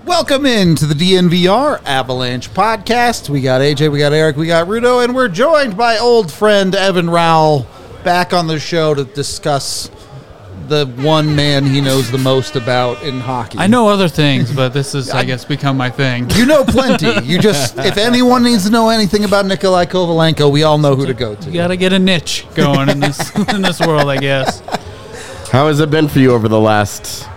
Welcome into the DNVR Avalanche podcast. We got AJ, we got Eric, we got Rudo, and we're joined by old friend Evan Rowell back on the show to discuss the one man he knows the most about in hockey. I know other things, but this is, I guess, become my thing. You know plenty. You just, if anyone needs to know anything about Nikolai Kovalenko, we all know who to go to. You got to get a niche going in this world, I guess. How has it been for you over the last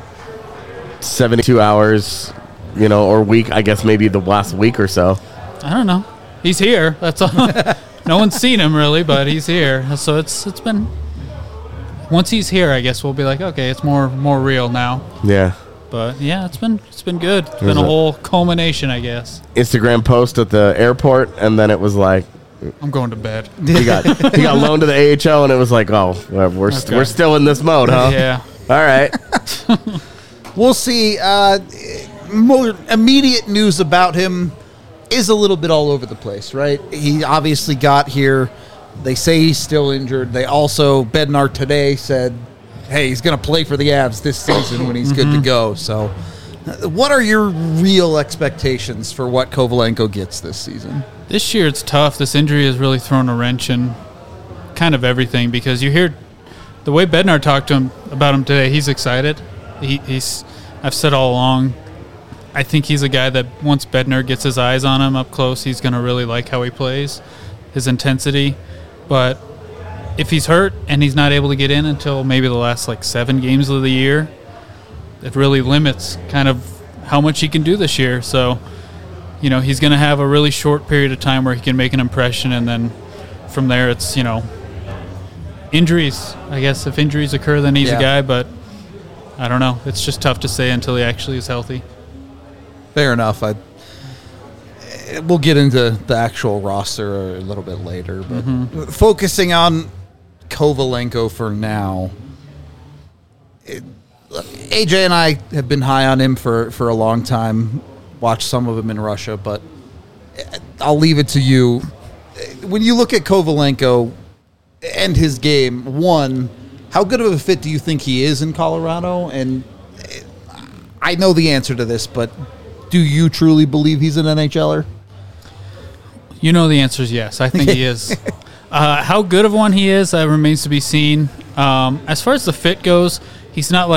72 hours, or week, I guess maybe the last week or so? I don't know. He's here. That's all. No one's seen him really, but he's here. So it's been, once he's here, I guess we'll be like, okay, it's more real now. Yeah. But yeah, it's been good. It's been a whole culmination, I guess. Instagram post at the airport, and then it was like, I'm going to bed. He got loaned to the AHL, and it was like, oh, we're still in this mode, huh? Yeah. All right. We'll see. More immediate news about him is a little bit all over the place, right? He obviously got here. They say he's still injured. They also, Bednar today said, hey, he's going to play for the Avs this season when he's good to go. So what are your real expectations for what Kovalenko gets this season? This year it's tough. This injury has really thrown a wrench in kind of everything, because you hear the way Bednar talked to him about him today, he's excited. I've said all along, I think he's a guy that once Bednar gets his eyes on him up close, he's going to really like how he plays, his intensity. But if he's hurt and he's not able to get in until maybe the last 7 games of the year, it really limits kind of how much he can do this year. So, he's going to have a really short period of time where he can make an impression, and then from there it's, injuries. I guess if injuries occur, then he's a guy, but I don't know. It's just tough to say until he actually is healthy. Fair enough. We'll get into the actual roster a little bit later, but focusing on Kovalenko for now, AJ and I have been high on him for a long time, watched some of him in Russia, but I'll leave it to you. When you look at Kovalenko and his game, one, how good of a fit do you think he is in Colorado? And I know the answer to this, but do you truly believe he's an NHLer? You know the answer is yes. I think he is. How good of one he is remains to be seen. As far as the fit goes, he's not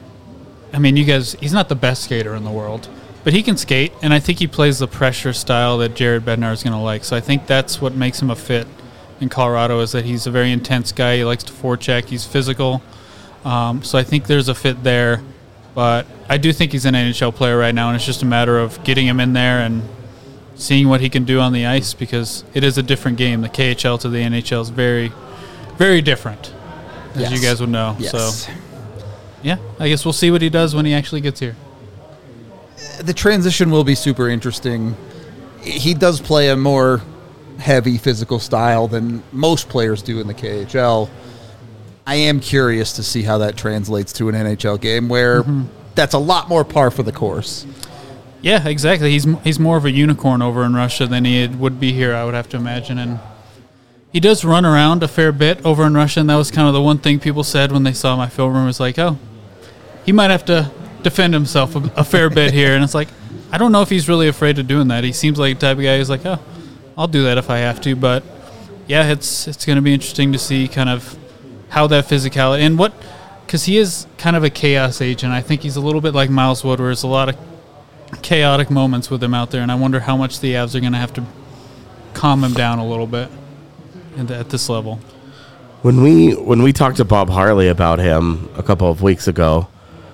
he's not the best skater in the world, but he can skate, and I think he plays the pressure style that Jared Bednar is going to like. So I think that's what makes him a fit in Colorado, is that he's a very intense guy. He likes to forecheck. He's physical. So I think there's a fit there. But I do think he's an NHL player right now, and it's just a matter of getting him in there and seeing what he can do on the ice, because it is a different game. The KHL to the NHL is very, very different, as you guys would know. Yes. So, yeah, I guess we'll see what he does when he actually gets here. The transition will be super interesting. He does play a more heavy physical style than most players do in the KHL. I am curious to see how that translates to an NHL game where that's a lot more par for the course. Yeah, exactly. He's more of a unicorn over in Russia than he would be here, I would have to imagine. And he does run around a fair bit over in Russia, and that was kind of the one thing people said when they saw my film room, was like, oh, he might have to defend himself a fair bit here. And it's like, I don't know if he's really afraid of doing that. He seems like the type of guy who's like, oh, I'll do that if I have to. But, yeah, it's going to be interesting to see kind of how that physicality, and because he is kind of a chaos agent. I think he's a little bit like Miles Wood, where there's a lot of chaotic moments with him out there, and I wonder how much the Avs are going to have to calm him down a little bit at this level. When we talked to Bob Harley about him a couple of weeks ago,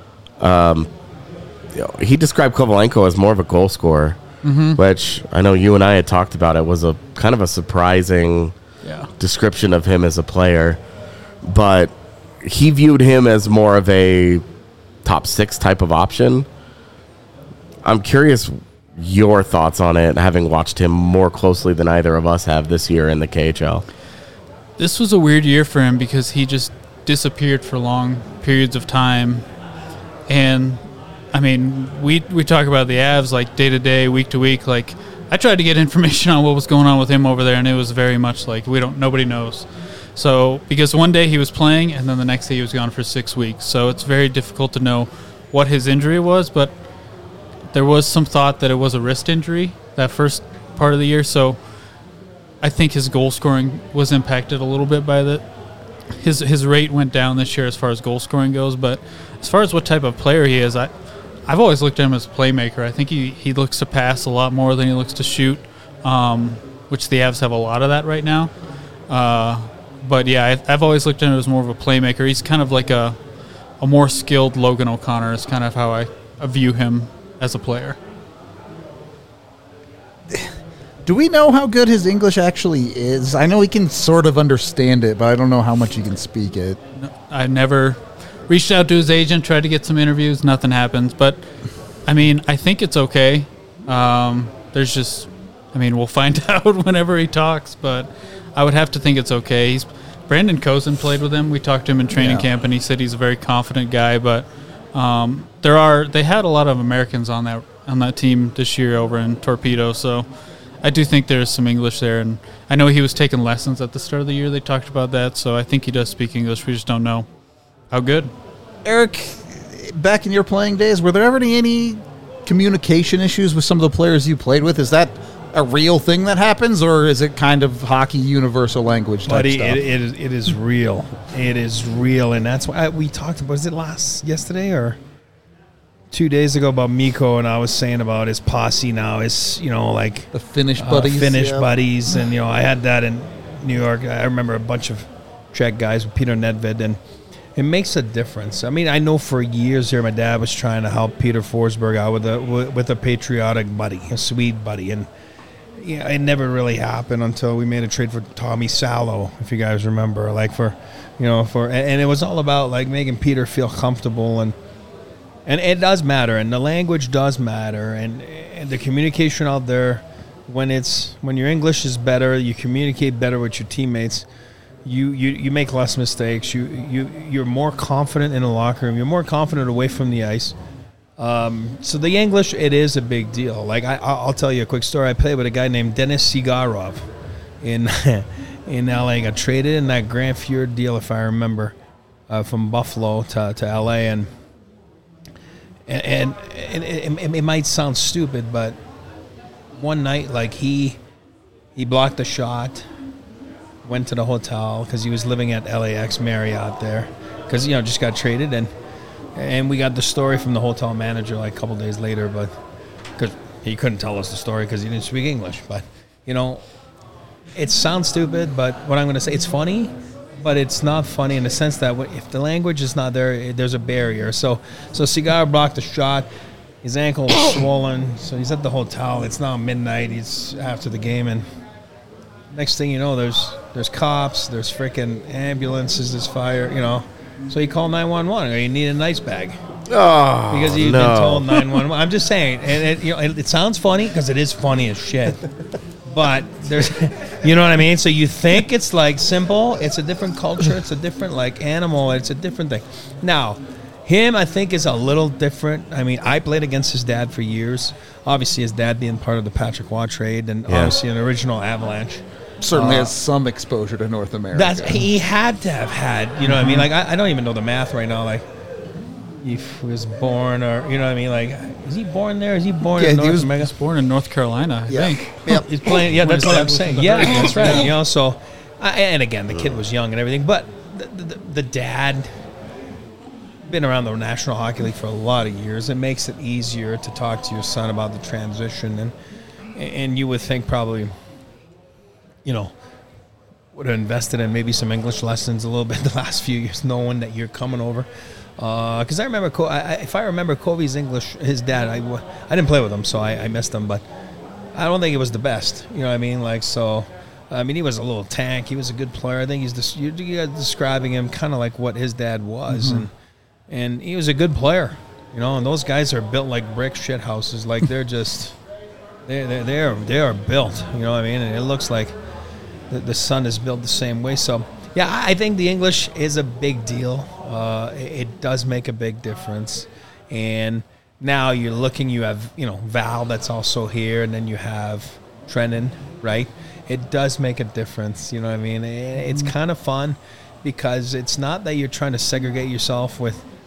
he described Kovalenko as more of a goal scorer, which I know you and I had talked about. It was a kind of a surprising description of him as a player. But he viewed him as more of a top 6 type of option. I'm curious your thoughts on it, having watched him more closely than either of us have this year in the KHL. This was a weird year for him because he just disappeared for long periods of time. And, I mean, we talk about the Avs day to day, week to week. I tried to get information on what was going on with him over there, and it was very much nobody knows. So, because one day he was playing, and then the next day he was gone for 6 weeks. So it's very difficult to know what his injury was, but there was some thought that it was a wrist injury that first part of the year, so I think his goal scoring was impacted a little bit by his rate went down this year as far as goal scoring goes. But as far as what type of player he is, I've always looked at him as a playmaker. I think he looks to pass a lot more than he looks to shoot, which the Avs have a lot of that right now. But yeah, I've always looked at him as more of a playmaker. He's kind of like a more skilled Logan O'Connor is kind of how I view him as a player. Do we know how good his English actually is? I know he can sort of understand it, but I don't know how much he can speak it. I never reached out to his agent, tried to get some interviews. Nothing happens. But, I mean, I think it's okay. There's just, I mean, we'll find out whenever he talks, but I would have to think it's okay. Brandon Kozin played with him. We talked to him in training camp, and he said he's a very confident guy. But they had a lot of Americans on that team this year over in Torpedo, so I do think there's some English there, and I know he was taking lessons at the start of the year. They talked about that, so I think he does speak English. We just don't know how good. Eric, back in your playing days, were there ever any communication issues with some of the players you played with? Is that a real thing that happens, or is it kind of hockey universal language type stuff? It is real. It is real, and that's why we talked about. Was it yesterday or 2 days ago about Mikko, and I was saying about his posse now is, like the Finnish buddies. Buddies, and, I had that in New York. I remember a bunch of Czech guys with Peter Nedved, and it makes a difference. I mean, I know for years here my dad was trying to help Peter Forsberg out with a patriotic buddy, a Swede buddy, and it never really happened until we made a trade for Tommy Salo, if you guys remember, and it was all about, like, making Peter feel comfortable, and it does matter, and the language does matter, and the communication out there, when your English is better, you communicate better with your teammates, you make less mistakes, you're more confident in the locker room, you're more confident away from the ice. So the English, it is a big deal. Like, I'll tell you a quick story. I played with a guy named Denis Sigarov in LA. Got traded in that Grand Fjord deal, if I remember, from Buffalo to LA, and it might sound stupid, but one night, like, he blocked the shot, went to the hotel because he was living at LAX Marriott there because, just got traded, and we got the story from the hotel manager like a couple days later, but because he couldn't tell us the story because he didn't speak English. But, it sounds stupid, but what I'm going to say, it's funny. But it's not funny in the sense that if the language is not there, there's a barrier. So Cigar blocked the shot. His ankle was swollen, so he's at the hotel. It's now midnight. He's after the game, and next thing you know, there's cops, there's freaking ambulances, there's fire. So he called 911. You need an ice bag. Oh, because he's been told 911. I'm just saying, and it sounds funny because it is funny as shit. But there's, you know what I mean? So you think it's like simple. It's a different culture. It's a different like animal. It's a different thing. Now, him, I think, is a little different. I mean, I played against his dad for years. Obviously, his dad being part of the Patrick Waugh trade and obviously an original Avalanche. Certainly has some exposure to North America. He had to have had, you know what I mean? Like, I don't even know the math right now. Like, he was born, or you know what I mean? Like, is he born there? Is he born in North America? He was born in North Carolina, I think. Yep. He's playing. Yeah, that's what I'm saying. Yeah, that's right. So, and again, the kid was young and everything, but the dad been around the National Hockey League for a lot of years. It makes it easier to talk to your son about the transition, and you would think probably, would have invested in maybe some English lessons a little bit the last few years, knowing that you're coming over. Because I remember, if I remember Kobe's English, his dad, I didn't play with him, so I missed him, but I don't think it was the best. You know what I mean? Like, so, I mean, he was a little tank. He was a good player. I think you're describing him kind of like what his dad was, and he was a good player. And those guys are built like brick shit houses. Like, they're just, they are built. You know what I mean? And it looks like the son is built the same way. So, yeah, I think the English is a big deal. It does make a big difference. And now you have, Val that's also here, and then you have Trennan, right? It does make a difference, you know what I mean? It's kind of fun because it's not that you're trying to segregate yourself with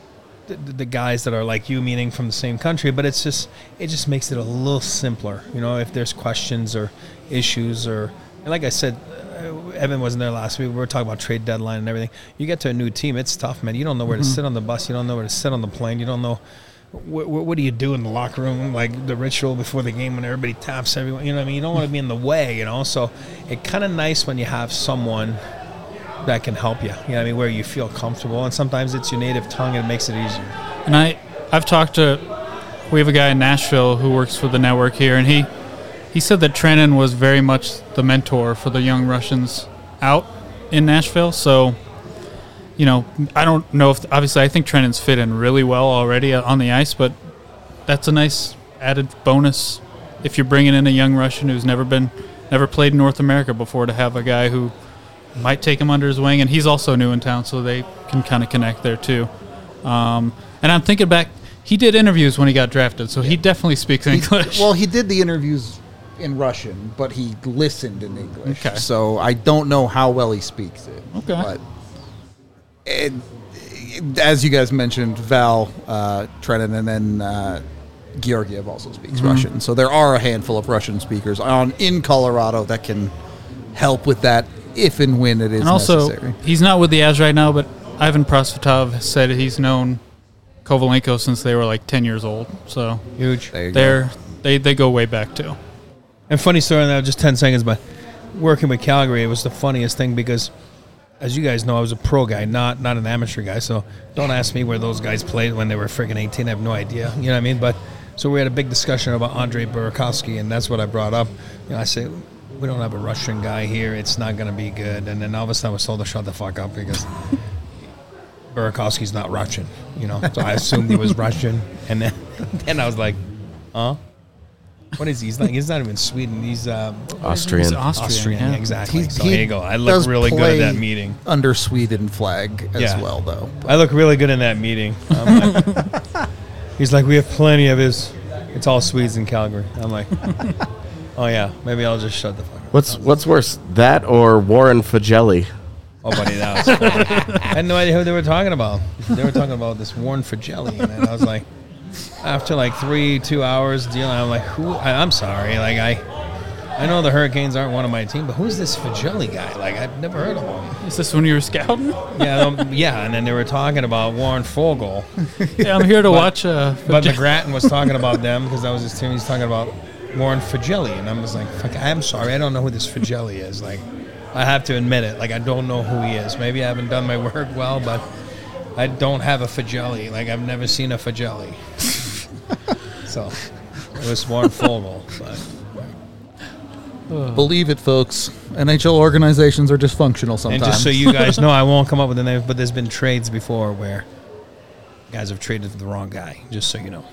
the guys that are like you, meaning from the same country, but it just makes it a little simpler. If there's questions or issues and like I said, Evan wasn't there last week. We were talking about trade deadline and everything. You get to a new team, it's tough, man. You don't know where to sit on the bus. You don't know where to sit on the plane. You don't know what do you do in the locker room, like the ritual before the game when everybody taps everyone. You know what I mean? You don't want to be in the way. So it's kind of nice when you have someone that can help you. You know what I mean? Where you feel comfortable, and sometimes it's your native tongue and it makes it easier. And I've talked to. We have a guy in Nashville who works for the network here, and he said that Trenin was very much the mentor for the young Russians out in Nashville. So, I don't know if obviously I think Trenin's fit in really well already on the ice, but that's a nice added bonus if you're bringing in a young Russian who's never played in North America before, to have a guy who might take him under his wing, and he's also new in town, so they can kind of connect there too. And I'm thinking back, he did interviews when he got drafted, so he definitely speaks English. Well, he did the interviews in Russian, but he listened in English. Okay. So I don't know how well he speaks it. Okay. But as you guys mentioned, Val, Trenin, and then Georgiev also speaks Russian. So there are a handful of Russian speakers in Colorado that can help with that if and when it is and also, necessary. He's not with the Avs right now, but Ivan Prosvetov said he's known Kovalenko since they were like 10 years old. So Huge. They go way back too. And funny story now, just 10 seconds, but working with Calgary, it was the funniest thing because, as you guys know, I was a pro guy, not an amateur guy. So don't ask me where those guys played when they were freaking 18. I have no idea. You know what I mean? But so we had a big discussion about Andrei Burakovsky, and that's what I brought up. I say, we don't have a Russian guy here. It's not going to be good. And then all of a sudden I was told to shut the fuck up because Burakovsky's not Russian. So I assumed he was Russian. And then I was like, huh? What is he? He's not even Sweden. He's Austrian. He's Austrian, yeah. Exactly. So here you go. I look really good at that meeting. Under Sweden flag as well, though. I look really good in that meeting. He's like, we have plenty of his. It's all Swedes in Calgary. I'm like, oh yeah, maybe I'll just shut the fuck up. What's worse, that or Warren Fagelli? Oh, buddy, that was funny. I had no idea who they were talking about. They were talking about this Warren Fagelli, and I was like, after like 2 hours dealing, I'm like, I'm sorry. Like, I know the Hurricanes aren't one of my team, but who's this Fagelli guy? Like, I've never heard of him. Is this when you were scouting? Yeah, and then they were talking about Warren Fogle. Yeah, I'm here to watch. But McGrattan was talking about them because that was his team. He's talking about Warren Fagelli, and I was like, fuck, I'm sorry, I don't know who this Fagelli is. Like, I have to admit it. Like, I don't know who he is. Maybe I haven't done my work well, but I don't have a Fagelli. Like, I've never seen a Fagelli. So it was Warren Fogle. Believe it, folks. NHL organizations are dysfunctional sometimes. And just so you guys know, I won't come up with the name, but there's been trades before where guys have traded for the wrong guy, just so you know.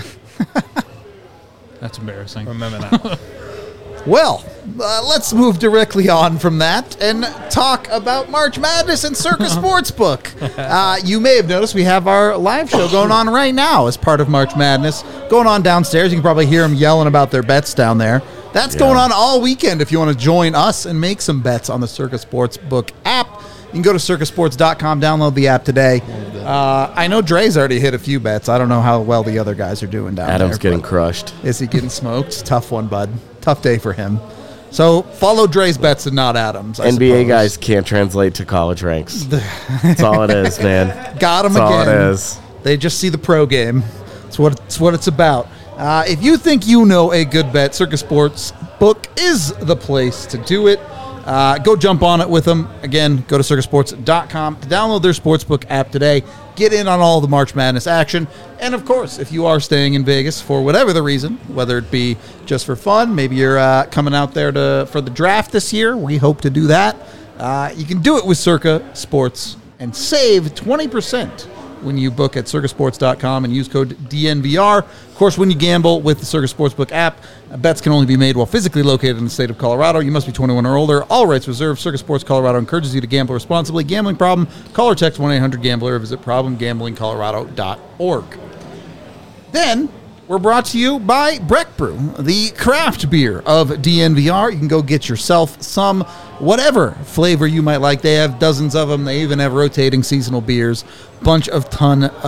That's embarrassing. Remember that. Well, let's move directly on from that and talk about March Madness and Circa Sportsbook. You may have noticed we have our live show going on right now as part of March Madness. Going on downstairs. You can probably hear them yelling about their bets down there. That's going on all weekend if you want to join us and make some bets on the Circa Sportsbook app. You can go to circasports.com, download the app today. I know Dre's already hit a few bets. I don't know how well the other guys are doing down there. Adam's getting crushed. Is he getting smoked? Tough one, bud. Tough day for him. So follow Dre's bets and not Adam's. I NBA suppose. guys can't translate to college ranks. That's all it is, man. Got him That's again. all it is. They just see the pro game. It's what it's about. If you think you know a good bet, Circa Sportsbook is the place to do it. Go jump on it with them. Again, go to circasports.com to download their sportsbook app today. Get in on all the March Madness action. And, of course, if you are staying in Vegas for whatever the reason, whether it be just for fun, maybe you're coming out there for the draft this year, we hope to do that. You can do it with Circa Sports and save 20% when you book at circasports.com and use code DNVR. Of course, when you gamble with the Circa Sportsbook app, bets can only be made while physically located in the state of Colorado. You must be 21 or older. All rights reserved. Circa Sports Colorado encourages you to gamble responsibly. Gambling problem? Call or text 1-800-GAMBLER or visit problemgamblingcolorado.org. Then, we're brought to you by Breck Brew, the craft beer of DNVR. You can go get yourself some, whatever flavor you might like. They have dozens of them. They even have rotating seasonal beers. Ton of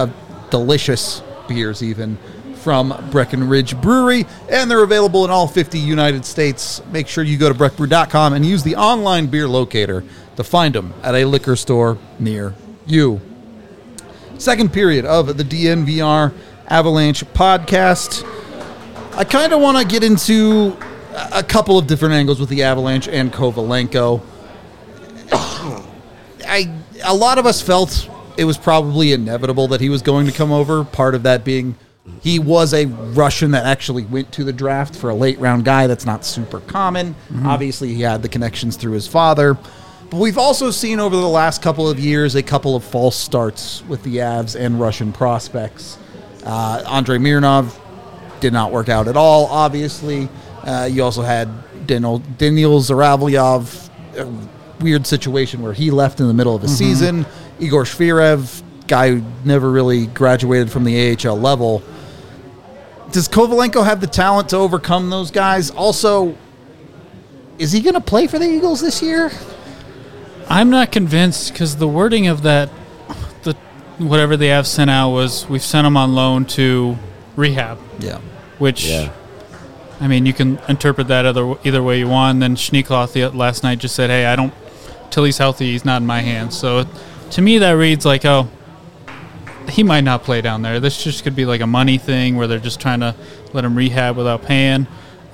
delicious beers even from Breckenridge Brewery, and they're available in all 50 United States. Make sure you go to breckbrew.com and use the online beer locator to find them at a liquor store near you. Second period of the DNVR Avalanche podcast. I kind of want to get into a couple of different angles with the Avalanche and Kovalenko. A lot of us felt it was probably inevitable that he was going to come over, part of that being he was a Russian that actually went to the draft for a late-round guy. That's not super common. Obviously, he had the connections through his father. But we've also seen over the last couple of years a couple of false starts with the Avs and Russian prospects. Andrei Mironov did not work out at all, obviously. You also had Daniil Zaravyov, a weird situation where he left in the middle of a season. Igor Shvirev, guy who never really graduated from the AHL level. Does Kovalenko have the talent to overcome those guys? Also, is he going to play for the Eagles this year? I'm not convinced because the wording of that, whatever they have sent out was, we've sent him on loan to rehab. Yeah. Which, I mean, you can interpret that either way you want. And then Schneekloth last night just said, hey, till he's healthy, he's not in my hands. So to me, that reads like, oh, he might not play down there. This just could be like a money thing where they're just trying to let him rehab without paying.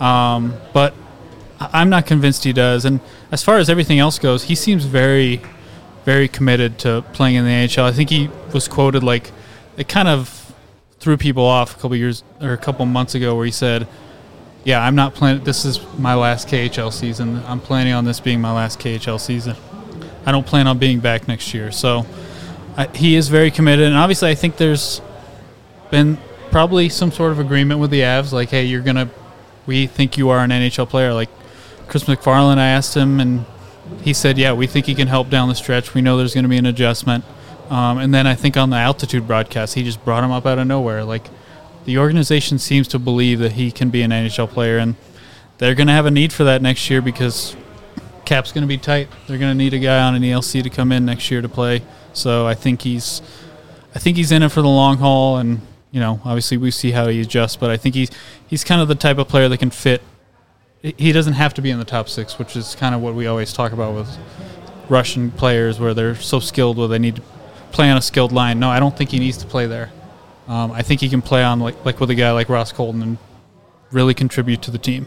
But I'm not convinced he does. And as far as everything else goes, he seems very, very committed to playing in the NHL. I think he was quoted like, it kind of threw people off a couple months ago where he said, yeah, I'm not playing. This is my last KHL season. I'm planning on this being my last KHL season. I don't plan on being back next year. So he is very committed. And obviously I think there's been probably some sort of agreement with the Avs. Like, hey, we think you are an NHL player. Like Chris McFarland, I asked him, and he said, yeah, we think he can help down the stretch. We know there's going to be an adjustment. And then I think on the altitude broadcast, he just brought him up out of nowhere. Like, the organization seems to believe that he can be an NHL player, and they're going to have a need for that next year because cap's going to be tight. They're going to need a guy on an ELC to come in next year to play. So I think he's in it for the long haul, and obviously we see how he adjusts. But I think he's kind of the type of player that can fit. He doesn't have to be in the top six, which is kind of what we always talk about with Russian players, where they're so skilled, where they need to play on a skilled line. No, I don't think he needs to play there. I think he can play on like with a guy like Ross Colton and really contribute to the team.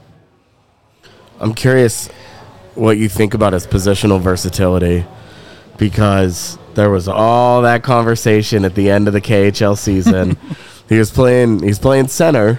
I'm curious what you think about his positional versatility, because there was all that conversation at the end of the KHL season. He's playing center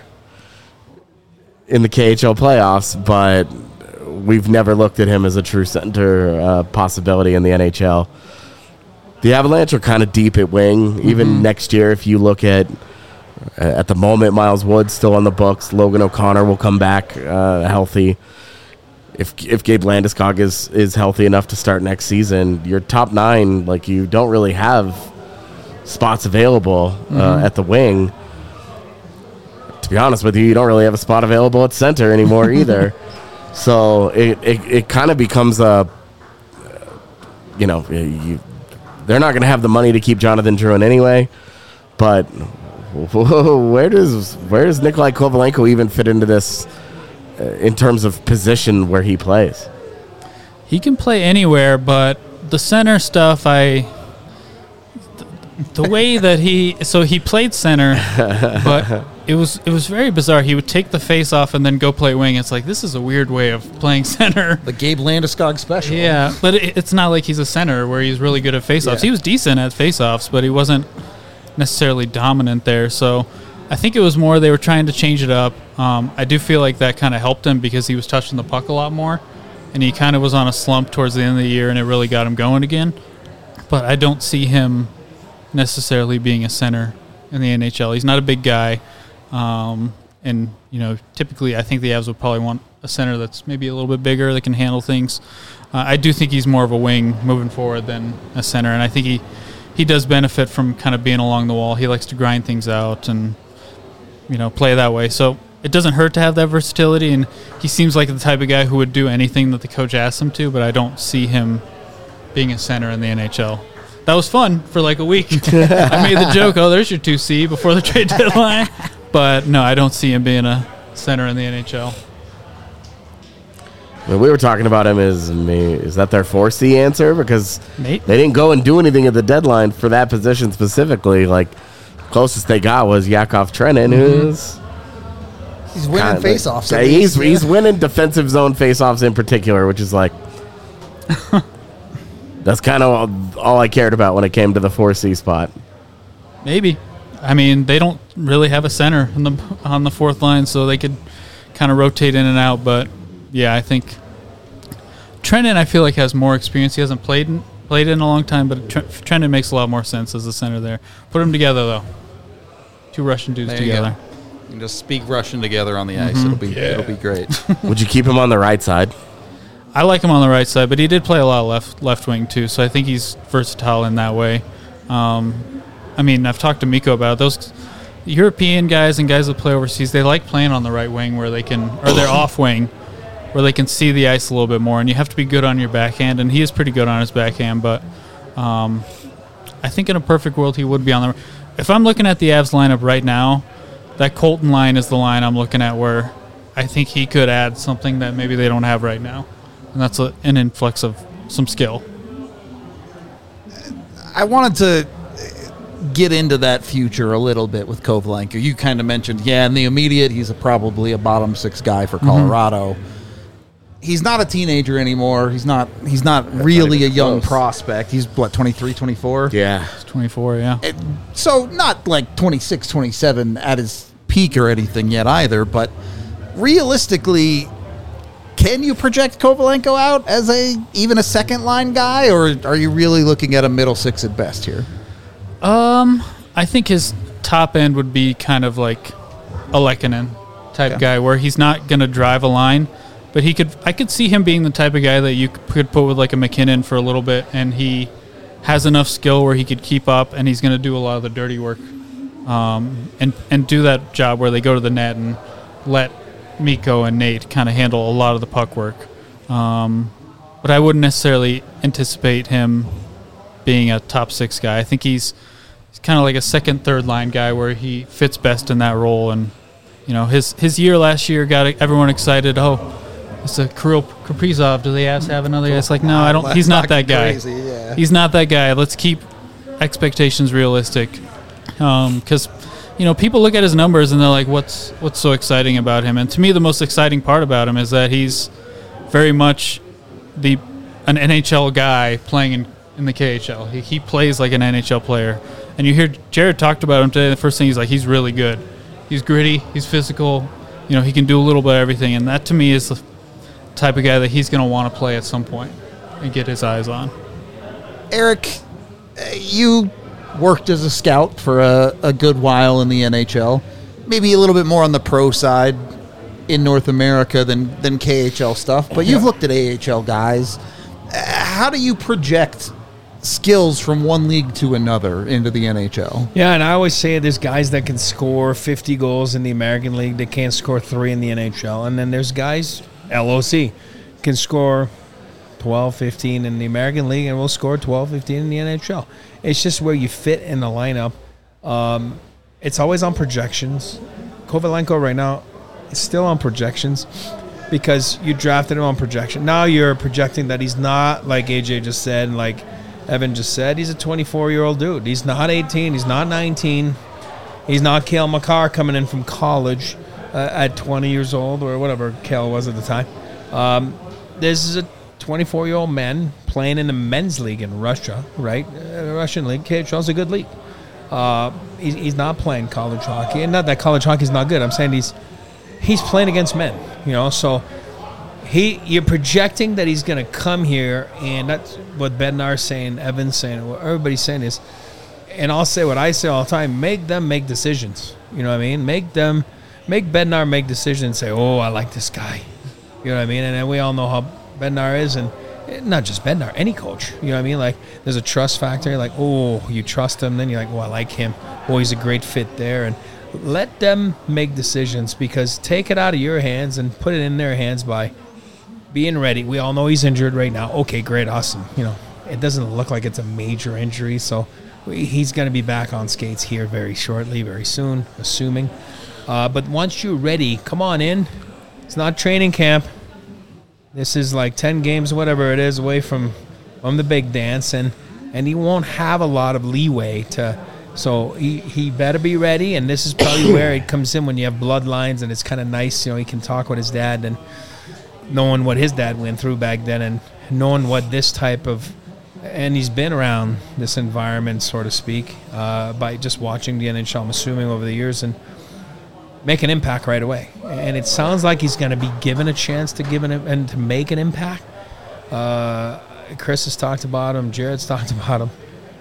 in the KHL playoffs, but we've never looked at him as a true center possibility in the NHL. The Avalanche are kind of deep at wing. Even next year, if you look at the moment, Miles Wood's still on the books. Logan O'Connor will come back healthy. If Gabe Landeskog is healthy enough to start next season, your top nine, like, you don't really have spots available at the wing. To be honest with you, you don't really have a spot available at center anymore either. So it kind of becomes they're not going to have the money to keep Jonathan Drouin anyway. But where does Nikolai Kovalenko even fit into this in terms of position where he plays? He can play anywhere, but the center stuff, the way that he played center, but it was very bizarre. He would take the face off and then go play wing. It's like, this is a weird way of playing center. The Gabe Landeskog special. Yeah, but it's not like he's a center where he's really good at faceoffs. Yeah. He was decent at faceoffs, but he wasn't necessarily dominant there. So I think it was more they were trying to change it up. I do feel like that kind of helped him because he was touching the puck a lot more, and he kind of was on a slump towards the end of the year, and it really got him going again. But I don't see him necessarily being a center in the NHL. He's not a big guy, and typically I think the Avs would probably want a center that's maybe a little bit bigger that can handle things. I do think he's more of a wing moving forward than a center, and I think he does benefit from kind of being along the wall. He likes to grind things out and play that way. So it doesn't hurt to have that versatility, and he seems like the type of guy who would do anything that the coach asks him to, but I don't see him being a center in the NHL. that was fun for like a week. I made the joke, oh, there's your 2C before the trade deadline. But no, I don't see him being a center in the NHL. When we were talking about him, is that their 4C answer? Because Nate? they didn't go and do anything at the deadline for that position specifically. Like, closest they got was Yakov Trenin, who's... He's winning faceoffs. Yeah, he's winning defensive zone faceoffs in particular, which is like... that's kind of all I cared about when it came to the 4C spot. Maybe. I mean, they don't really have a center on the fourth line, so they could kind of rotate in and out. But, yeah, I think Trenin, I feel like, has more experience. He hasn't played in a long time, but Trenin makes a lot more sense as a center there. Put them together, though. Two Russian dudes together. You can just speak Russian together on the ice. It'll be great. Would you keep him on the right side? I like him on the right side, but he did play a lot of left wing too, so I think he's versatile in that way. I mean, I've talked to Mikko about it. Those European guys and guys that play overseas, they like playing on the right wing where they can, or their off wing, where they can see the ice a little bit more, and you have to be good on your backhand, and he is pretty good on his backhand, but I think in a perfect world he would be on the. If I'm looking at the Avs lineup right now, that Colton line is the line I'm looking at where I think he could add something that maybe they don't have right now. And that's an influx of some skill. I wanted to get into that future a little bit with Kovalenko. You kind of mentioned, in the immediate, he's probably a bottom six guy for Colorado. He's not a teenager anymore. He's not really a young prospect. He's, 23, 24? Yeah. He's 24, yeah. So not like 26, 27 at his peak or anything yet either, but realistically, can you project Kovalenko out as even a second-line guy, or are you really looking at a middle six at best here? I think his top end would be kind of like a Lehkonen type guy where he's not going to drive a line, but I could see him being the type of guy that you could put with like a McKinnon for a little bit, and he has enough skill where he could keep up, and he's going to do a lot of the dirty work, and do that job where they go to the net and let Mikko and Nate kind of handle a lot of the puck work. But I wouldn't necessarily anticipate him being a top six guy. I think he's kind of like a second, third line guy where he fits best in that role. And, his year last year got everyone excited. Oh, it's a Kirill Kaprizov. Do the Avs have another guy? It's like, no, I don't. He's not that guy. Crazy, yeah. He's not that guy. Let's keep expectations realistic. Because, people look at his numbers and they're like, what's so exciting about him? And to me, the most exciting part about him is that he's very much an NHL guy playing in the KHL. He plays like an NHL player. And you hear Jared talked about him today. The first thing he's really good. He's gritty. He's physical. He can do a little bit of everything. And that to me is the type of guy that he's going to want to play at some point and get his eyes on. Eric, you worked as a scout for a good while in the NHL, maybe a little bit more on the pro side in North America than KHL stuff, but you've looked at AHL guys. How do you project skills from one league to another into the NHL? Yeah, and I always say there's guys that can score 50 goals in the American League that can't score 3 in the NHL, and then there's guys, LOC, can score 12, 15 in the American League and will score 12, 15 in the NHL. It's just where you fit in the lineup. It's always on projections. Kovalenko right now is still on projections because you drafted him on projection. Now you're projecting that he's not, like AJ just said, and like Evan just said, he's a 24-year-old dude. He's not 18. He's not 19. He's not Cale Makar coming in from college at 20 years old or whatever Cale was at the time. This is a 24-year-old man playing in the men's league in Russia, right? Russian league. KHL is a good league. He's not playing college hockey, and not that college hockey is not good. I'm saying he's playing against men, So you're projecting that he's going to come here, and that's what Bednar's saying, Evan's saying, what everybody's saying is, and I'll say what I say all the time: make them make decisions. You know what I mean? Make Bednar make decisions and say, "Oh, I like this guy." You know what I mean? And then we all know how Bednar is, and not just Bednar, any coach. You know what I mean? Like, there's a trust factor. You're like, oh, you trust him. Then you're like, oh, I like him. Oh, he's a great fit there. And let them make decisions, because take it out of your hands and put it in their hands by being ready. We all know he's injured right now. Okay, great, awesome. it doesn't look like it's a major injury, so he's going to be back on skates here very shortly, very soon, assuming. But once you're ready, come on in. It's not training camp. This is like 10 games, whatever it is, away from the big dance, and he won't have a lot of leeway to. So he better be ready, and this is probably where it comes in when you have bloodlines, and it's kind of nice, you know, he can talk with his dad and knowing what his dad went through back then and knowing what this type of, and he's been around this environment, so to speak, by just watching the NHL, I'm assuming, over the years, and make an impact right away. And it sounds like he's going to be given a chance to and to make an impact. Chris has talked about him. Jared's talked about him.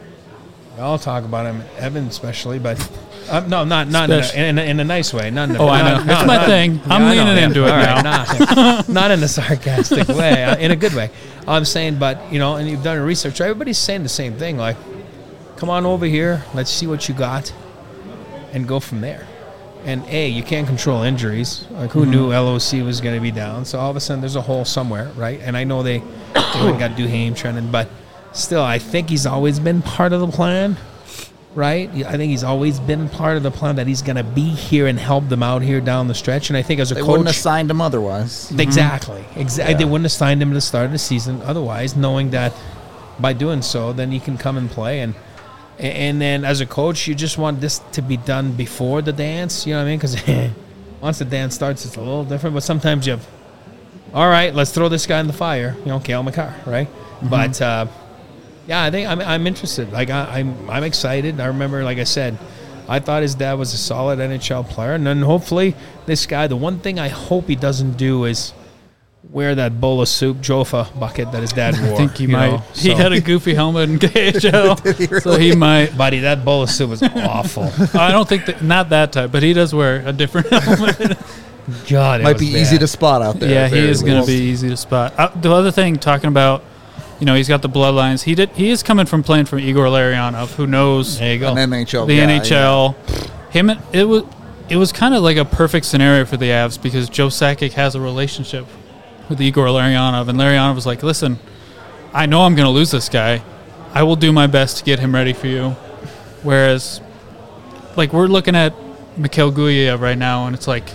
We all talk about him. Evan especially, but no, not in a nice way. Not in I know. It's my thing. I'm leaning into it now. Not in a sarcastic way. In a good way. I'm saying, but, you know, and you've done research. Everybody's saying the same thing. Like, come on over here. Let's see what you got and go from there. And, you can't control injuries. Like, who knew LOC was going to be down? So all of a sudden there's a hole somewhere, right? And I know they got Duhaime trending, but still, I think he's always been part of the plan, right? I think he's always been part of the plan that he's going to be here and help them out here down the stretch. And I think as a coach, they wouldn't have signed him otherwise. Exactly. Yeah. They wouldn't have signed him at the start of the season otherwise, knowing that by doing so, then he can come and play. And then as a coach, you just want this to be done before the dance, you know what I mean? Because once the dance starts, it's a little different. But sometimes you have, all right, let's throw this guy in the fire, you know, Cale Makar, right? But yeah, I think I'm interested. Like I'm excited. I remember, like I said, I thought his dad was a solid NHL player, and then hopefully this guy. The one thing I hope he doesn't do is wear that bowl of soup Jofa bucket that his dad wore. I think he might. He had a goofy helmet in KHL, so he might. Buddy, that bowl of soup was awful. I don't think not that type, but he does wear a different helmet. God, might be easy to spot out there. Yeah, he is going to be easy to spot. The other thing, talking about, you know, he's got the bloodlines. He is coming from playing from Igor Larionov, who knows there you go. An NHL the guy, NHL. Yeah. Him, it was kind of like a perfect scenario for the Avs because Joe Sakic has a relationship with Igor Larionov, and Larionov was like, "Listen, I know I'm going to lose this guy. I will do my best to get him ready for you." Whereas, like, we're looking at Mikhail Gulyayev right now, and it's like,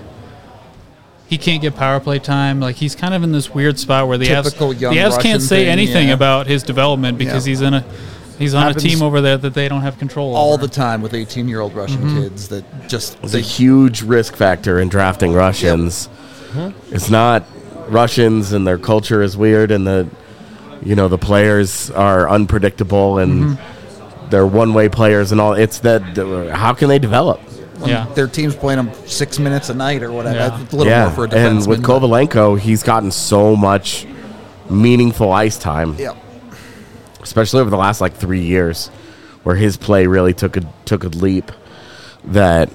he can't get power play time. Like, he's kind of in this weird spot where the Avs can't say anything about his development because he's on a team over there that they don't have control all over. the time with 18-year-old Russian kids that just it's a huge risk factor in drafting Russians. It's not Russians and their culture is weird and the players are unpredictable and they're one-way players and all. It's that how can they develop? Their team's playing them 6 minutes a night or whatever. Yeah. That's a little more for a defenseman. And with Kovalenko, he's gotten so much meaningful ice time. Yeah. Especially over the last 3 years, where his play really took a leap. That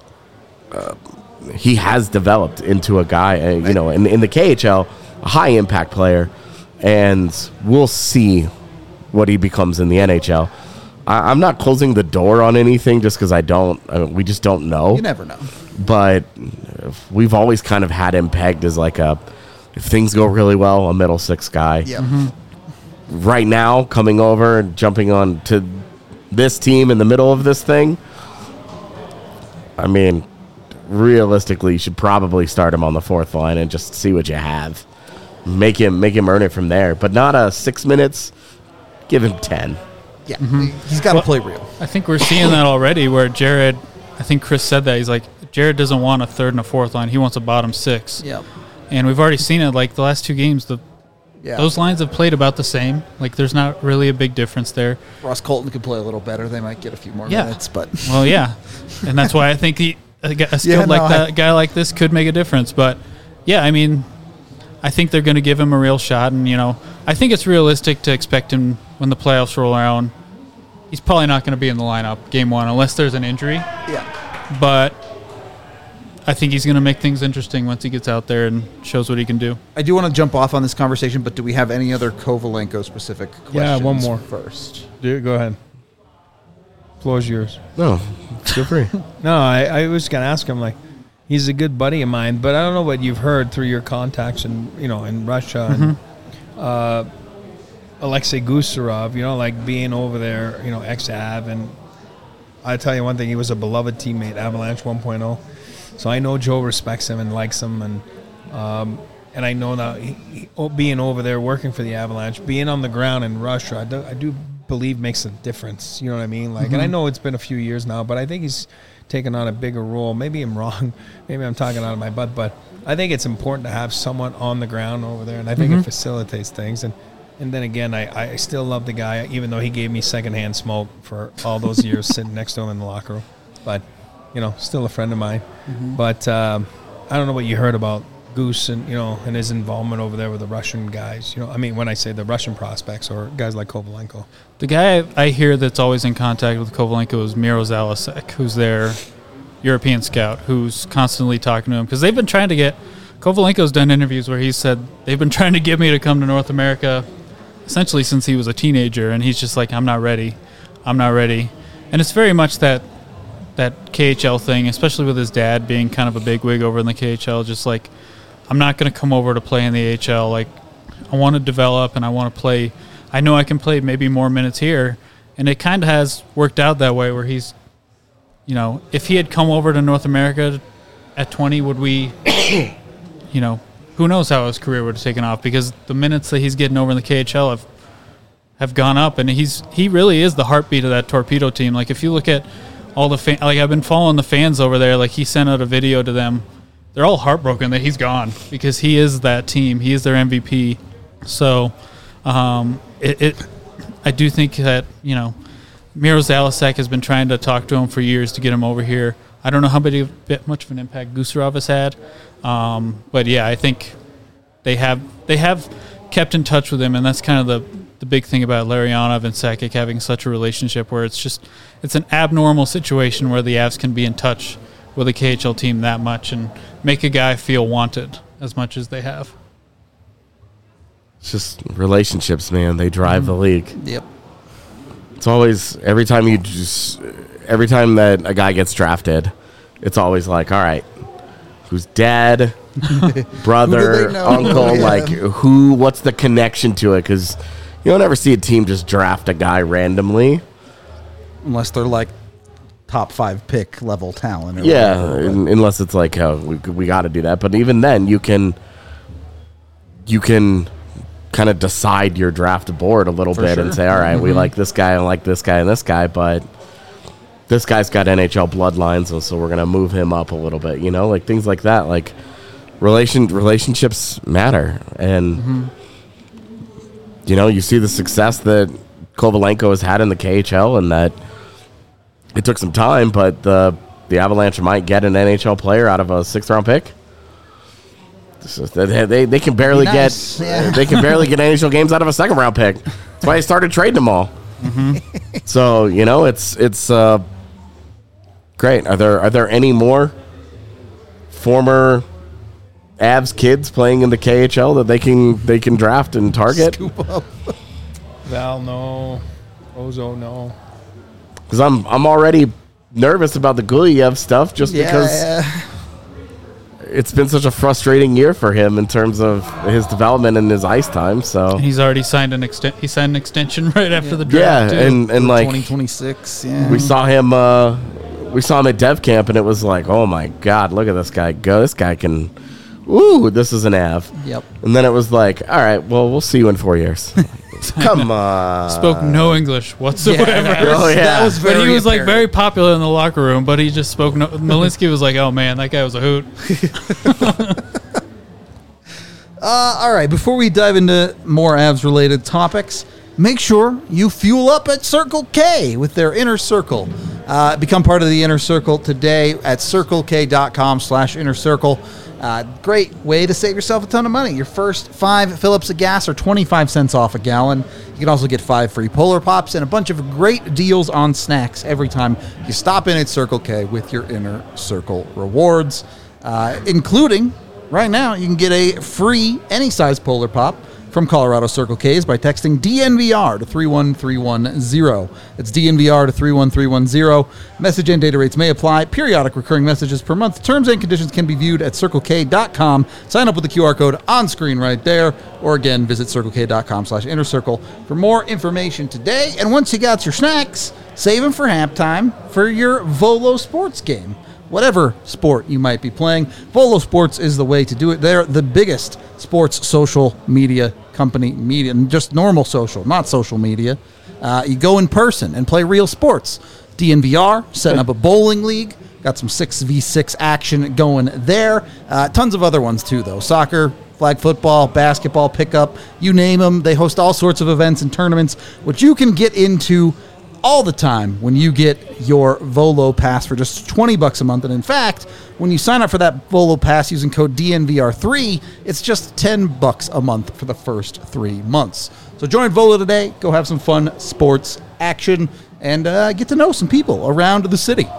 he has developed into a guy, in the KHL, a high impact player, and we'll see what he becomes in the NHL. I'm not closing the door on anything just because we just don't know. You never know. But we've always kind of had him pegged as if things go really well, a middle six guy. Yeah. Right now, coming over and jumping on to this team in the middle of this thing, I mean, realistically, you should probably start him on the fourth line and just see what you have. Make him earn it from there. But not 6 minutes. Give him 10. Yeah, he's got to play real. I think we're seeing that already where Jared, I think Chris said that, he's like, Jared doesn't want a third and a fourth line. He wants a bottom six. Yeah. And we've already seen it, the last two games, those lines have played about the same. There's not really a big difference there. Ross Colton could play a little better. They might get a few more minutes, but... Well, yeah. And that's why I think a skill guy like this could make a difference. But, yeah, I mean, I think they're going to give him a real shot. And, I think it's realistic to expect him when the playoffs roll around. He's probably not going to be in the lineup game one unless there's an injury. Yeah. But I think he's going to make things interesting once he gets out there and shows what he can do. I do want to jump off on this conversation, but do we have any other Kovalenko-specific questions? Yeah, one more. First. Dude, go ahead. Floor's yours. No, feel free. No, I was going to ask him, he's a good buddy of mine, but I don't know what you've heard through your contacts in Russia. And, Alexei Gusarov, like being over there, ex-Av, and I tell you one thing, he was a beloved teammate, Avalanche 1.0. So I know Joe respects him and likes him, and I know that he being over there working for the Avalanche, being on the ground in Russia, I do believe makes a difference. You know what I mean? Like, and I know it's been a few years now, but I think he's taken on a bigger role. Maybe I'm wrong. Maybe I'm talking out of my butt, but I think it's important to have someone on the ground over there, and I think it facilitates things. And then again, I still love the guy, even though he gave me secondhand smoke for all those years sitting next to him in the locker room. But, still a friend of mine. But I don't know what you heard about Goose and, and his involvement over there with the Russian guys. When I say the Russian prospects or guys like Kovalenko. The guy I hear that's always in contact with Kovalenko is Miro Zalasek, who's their European scout, who's constantly talking to him. Because they've been trying to get – Kovalenko's done interviews where he said they've been trying to get me to come to North America essentially since he was a teenager, and he's just like, I'm not ready. And it's very much that KHL thing, especially with his dad being kind of a bigwig over in the KHL, just like, I'm not going to come over to play in the AHL. Like, I want to develop and I want to play. I know I can play maybe more minutes here. And it kind of has worked out that way where he's, if he had come over to North America at 20, would we, who knows how his career would have taken off, because the minutes that he's getting over in the KHL have gone up, and he really is the heartbeat of that Torpedo team. Like, if you look at all the I've been following the fans over there. Like, he sent out a video to them. They're all heartbroken that he's gone because he is that team. He is their MVP. So, I do think that, Miro Zalasek has been trying to talk to him for years to get him over here. I don't know how much of an impact Gusarov has had. But yeah, I think they have kept in touch with him, and that's kind of the big thing about Larionov and Sakic having such a relationship where it's an abnormal situation where the Avs can be in touch with a KHL team that much and make a guy feel wanted as much as they have. It's just relationships, man. They drive the league. Yep. It's always, every time that a guy gets drafted, it's always like, all right, who's dad, brother, uncle, what's the connection to it? Because you don't ever see a team just draft a guy randomly. Unless they're like top 5 pick level talent. Unless it's like, we got to do that. But even then, you can kind of decide your draft board a little bit and say, all right, we like this guy and like this guy and this guy, but this guy's got NHL bloodlines, and so we're going to move him up a little bit, like things like that. Like, relationships matter. And, you see the success that Kovalenko has had in the KHL, and that it took some time, but the Avalanche might get an NHL player out of a 6th-round pick. They can barely get NHL games out of a 2nd-round pick. That's why they started trading them all. So it's great. Are there any more former Avs kids playing in the KHL that they can draft and target? Scoop up. Val, no. Ozo, no. Because I'm already nervous about the Gulyev stuff, just because it's been such a frustrating year for him in terms of his development and his ice time. So he's already signed an extension right after the draft. Yeah, and like 2026. Yeah, we saw him at Dev Camp, and it was like, oh my God, look at this guy go! This guy can. Ooh, this is an Av. Yep. And then it was like, all right, well, we'll see you in 4 years. Come on. Spoke no English whatsoever. That was but he was like very popular in the locker room, but he just spoke no. Malinsky was like, oh man, that guy was a hoot. All right, before we dive into more Avs-related topics, make sure you fuel up at Circle K with their Inner Circle. Become part of the Inner Circle today at circlek.com/Inner Circle. Great way to save yourself a ton of money. Your first 5 fill-ups of gas are 25 cents off a gallon. You can also get 5 free Polar Pops and a bunch of great deals on snacks every time you stop in at Circle K with your Inner Circle rewards, including right now you can get a free any size Polar Pop from Colorado Circle K's by texting DNVR to 31310. That's DNVR to 31310. Message and data rates may apply. Periodic recurring messages per month. Terms and conditions can be viewed at CircleK.com. Sign up with the QR code on screen right there. Or again, visit CircleK.com/InnerCircle for more information today. And once you got your snacks, save them for halftime for your Volo Sports game. Whatever sport you might be playing, Volo Sports is the way to do it. They're the biggest sports social media company, just normal social, not social media. You go in person and play real sports. DNVR, setting up a bowling league. Got some 6v6 action going there. Tons of other ones too, though. Soccer, flag football, basketball, pickup, you name them. They host all sorts of events and tournaments, which you can get into all the time when you get your Volo Pass for just $20 a month. And in fact, when you sign up for that Volo Pass using code DNVR3, it's just $10 a month for the first 3 months. So join Volo today, go have some fun sports action, and get to know some people around the city.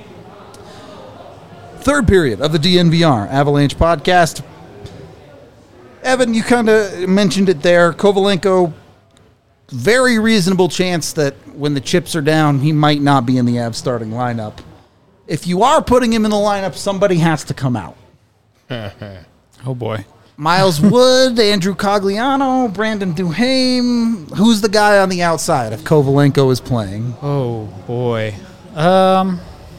Third period of the DNVR Avalanche podcast. Evan, you kind of mentioned it there. Kovalenko, very reasonable chance that when the chips are down, he might not be in the Avs starting lineup. If you are putting him in the lineup, somebody has to come out. Oh, boy. Miles Wood, Andrew Cogliano, Brandon Duhaime. Who's the guy on the outside if Kovalenko is playing? Oh, boy. I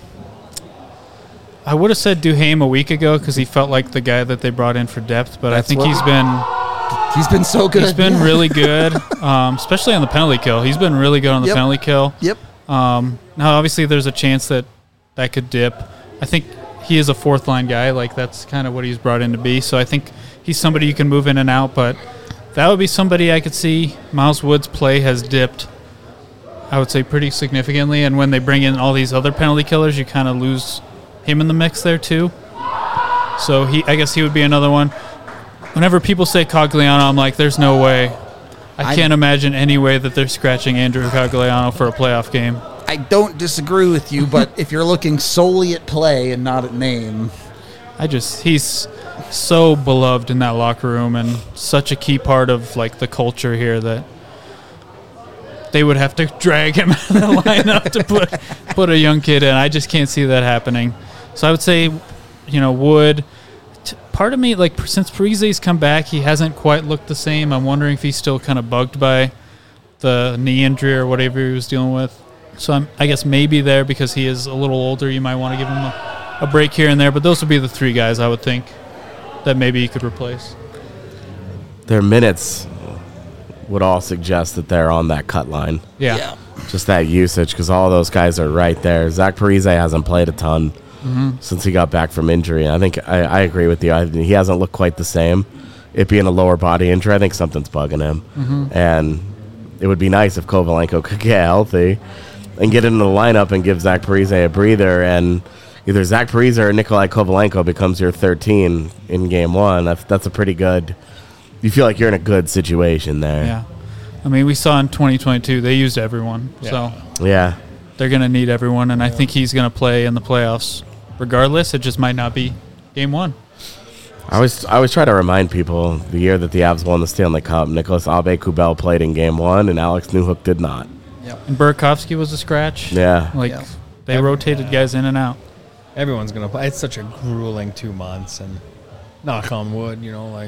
would have said Duhaime a week ago because he felt like the guy that they brought in for depth, but I think he's been so good. He's been really good, especially on the penalty kill. He's been really good on the penalty kill. Yep. Now, obviously, there's a chance that could dip. I think he is a fourth-line guy. Like, that's kind of what he's brought in to be. So I think he's somebody you can move in and out, but that would be somebody I could see. Miles Wood's play has dipped, I would say, pretty significantly, and when they bring in all these other penalty killers, you kind of lose him in the mix there, too. So I guess he would be another one. Whenever people say Cogliano, I'm like, there's no way. I can't imagine any way that they're scratching Andrew Cogliano for a playoff game. I don't disagree with you, but if you're looking solely at play and not at name. He's so beloved in that locker room and such a key part of, like, the culture here that they would have to drag him out of the lineup to put a young kid in. I just can't see that happening. So I would say, Wood. Part of me, like, since Parise's come back, he hasn't quite looked the same. I'm wondering if he's still kind of bugged by the knee injury or whatever he was dealing with. So I guess maybe there because he is a little older, you might want to give him a break here and there. But those would be the three guys I would think that maybe he could replace. Their minutes would all suggest that they're on that cut line. Yeah. Just that usage because all those guys are right there. Zach Parise hasn't played a ton. Since he got back from injury. I think I agree with you. He hasn't looked quite the same. It being a lower body injury, I think something's bugging him. And it would be nice if Kovalenko could get healthy and get into the lineup and give Zach Parise a breather. And either Zach Parise or Nikolai Kovalenko becomes your 13 in game one. That's a pretty good. You feel like you're in a good situation there. Yeah. I mean, we saw in 2022 they used everyone. Yeah. So yeah, they're going to need everyone, and I think he's going to play in the playoffs. Regardless, it just might not be game one. I always try to remind people the year that the Avs won the Stanley Cup, Nicholas Aube-Kubel played in game one, and Alex Newhook did not. Yep. And Burakovsky was a scratch. Yeah. They rotated guys in and out. Everyone's going to play. It's such a grueling 2 months, and knock on wood,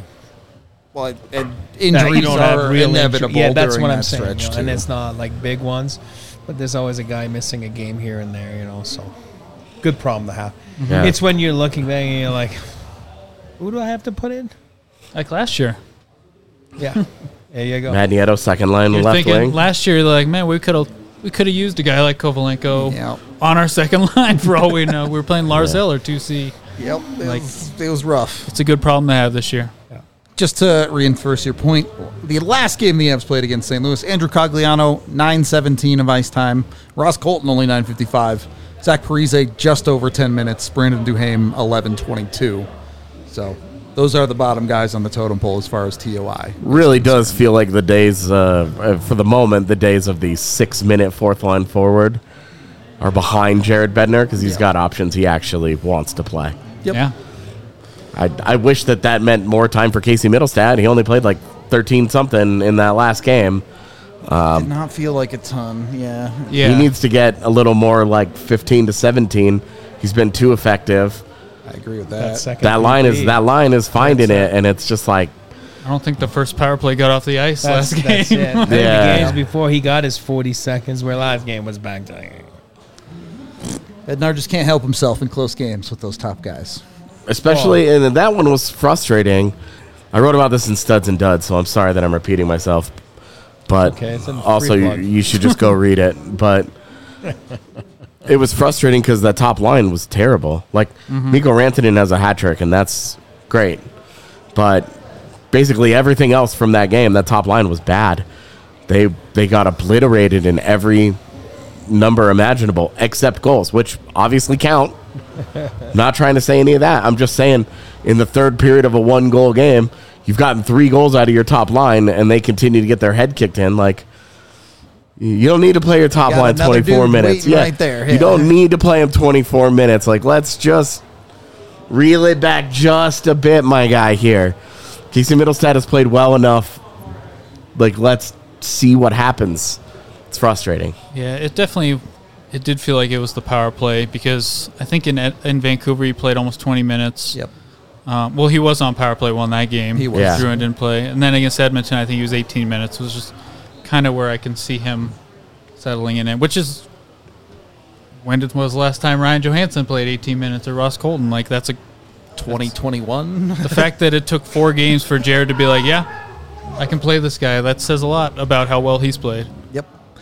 Well, and injuries are inevitable. Yeah, that's during what I'm that saying. stretch, And too. it's not like big ones, but there's always a guy missing a game here and there, so good problem to have. Yeah. It's when you're looking back and you're like, who do I have to put in? Like last year. Yeah. There you go. Matt Nieto, second line, You're left thinking wing. last year, like, man, we could have used a guy like Kovalenko Yep. on our second line for all we know. We were playing Lars Eller 2C. Yep. It was rough. It's a good problem to have this year. Just to reinforce your point, the last game the Avs played against St. Louis, Andrew Cogliano, 9:17 of ice time. Ross Colton, only 9:55. Zach Parise, just over 10 minutes. Brandon Duhaime, 11:22. So those are the bottom guys on the totem pole as far as TOI. Really does feel like the days, for the moment, the days of the 6-minute fourth line forward are behind Jared Bednar because he's got options he actually wants to play. Yep. Yeah. I wish that meant more time for Casey Middlestad. He only played like 13 something in that last game. Did not feel like a ton. Yeah. Yeah. He needs to get a little more like 15 to 17. He's been too effective. I agree with that. That line is finding it, and it's just like I don't think the first power play got off the ice last game. That's it. Yeah. The games before he got his 40 seconds, where last game was back to. Bednar just can't help himself in close games with those top guys. especially and that one was frustrating. I wrote about this in Studs and Duds, so I'm sorry that I'm repeating myself. But Okay, it's a free also, plug. you should just go read it. But it was frustrating because that top line was terrible. Like, Mikko Rantanen has a hat trick, and that's great. But basically everything else from that game, that top line was bad. They got obliterated in every number imaginable except goals, which obviously count. Not trying to say any of that. I'm just saying in the third period of a 1-goal game, you've gotten 3 goals out of your top line, and they continue to get their head kicked in. Like, you don't need to play your top Got line another 24 dude minutes. waiting right there. You Yeah. don't need to play him 24 minutes. Like, let's just reel it back just a bit, my guy here. Casey Middlestad has played well enough. Like, let's see what happens. It's frustrating. Yeah, it did feel like it was the power play because I think in Vancouver he played almost 20 minutes. Yep. Well, he was on power play one that game. He was. Yeah. Drouin didn't play. And then against Edmonton, I think he was 18 minutes. It was just kind of where I can see him settling in, which is when was the last time Ryan Johansson played 18 minutes or Ross Colton? Like, that's 2021. the fact that it took 4 games for Jared to be like, yeah, I can play this guy. That says a lot about how well he's played. Yep.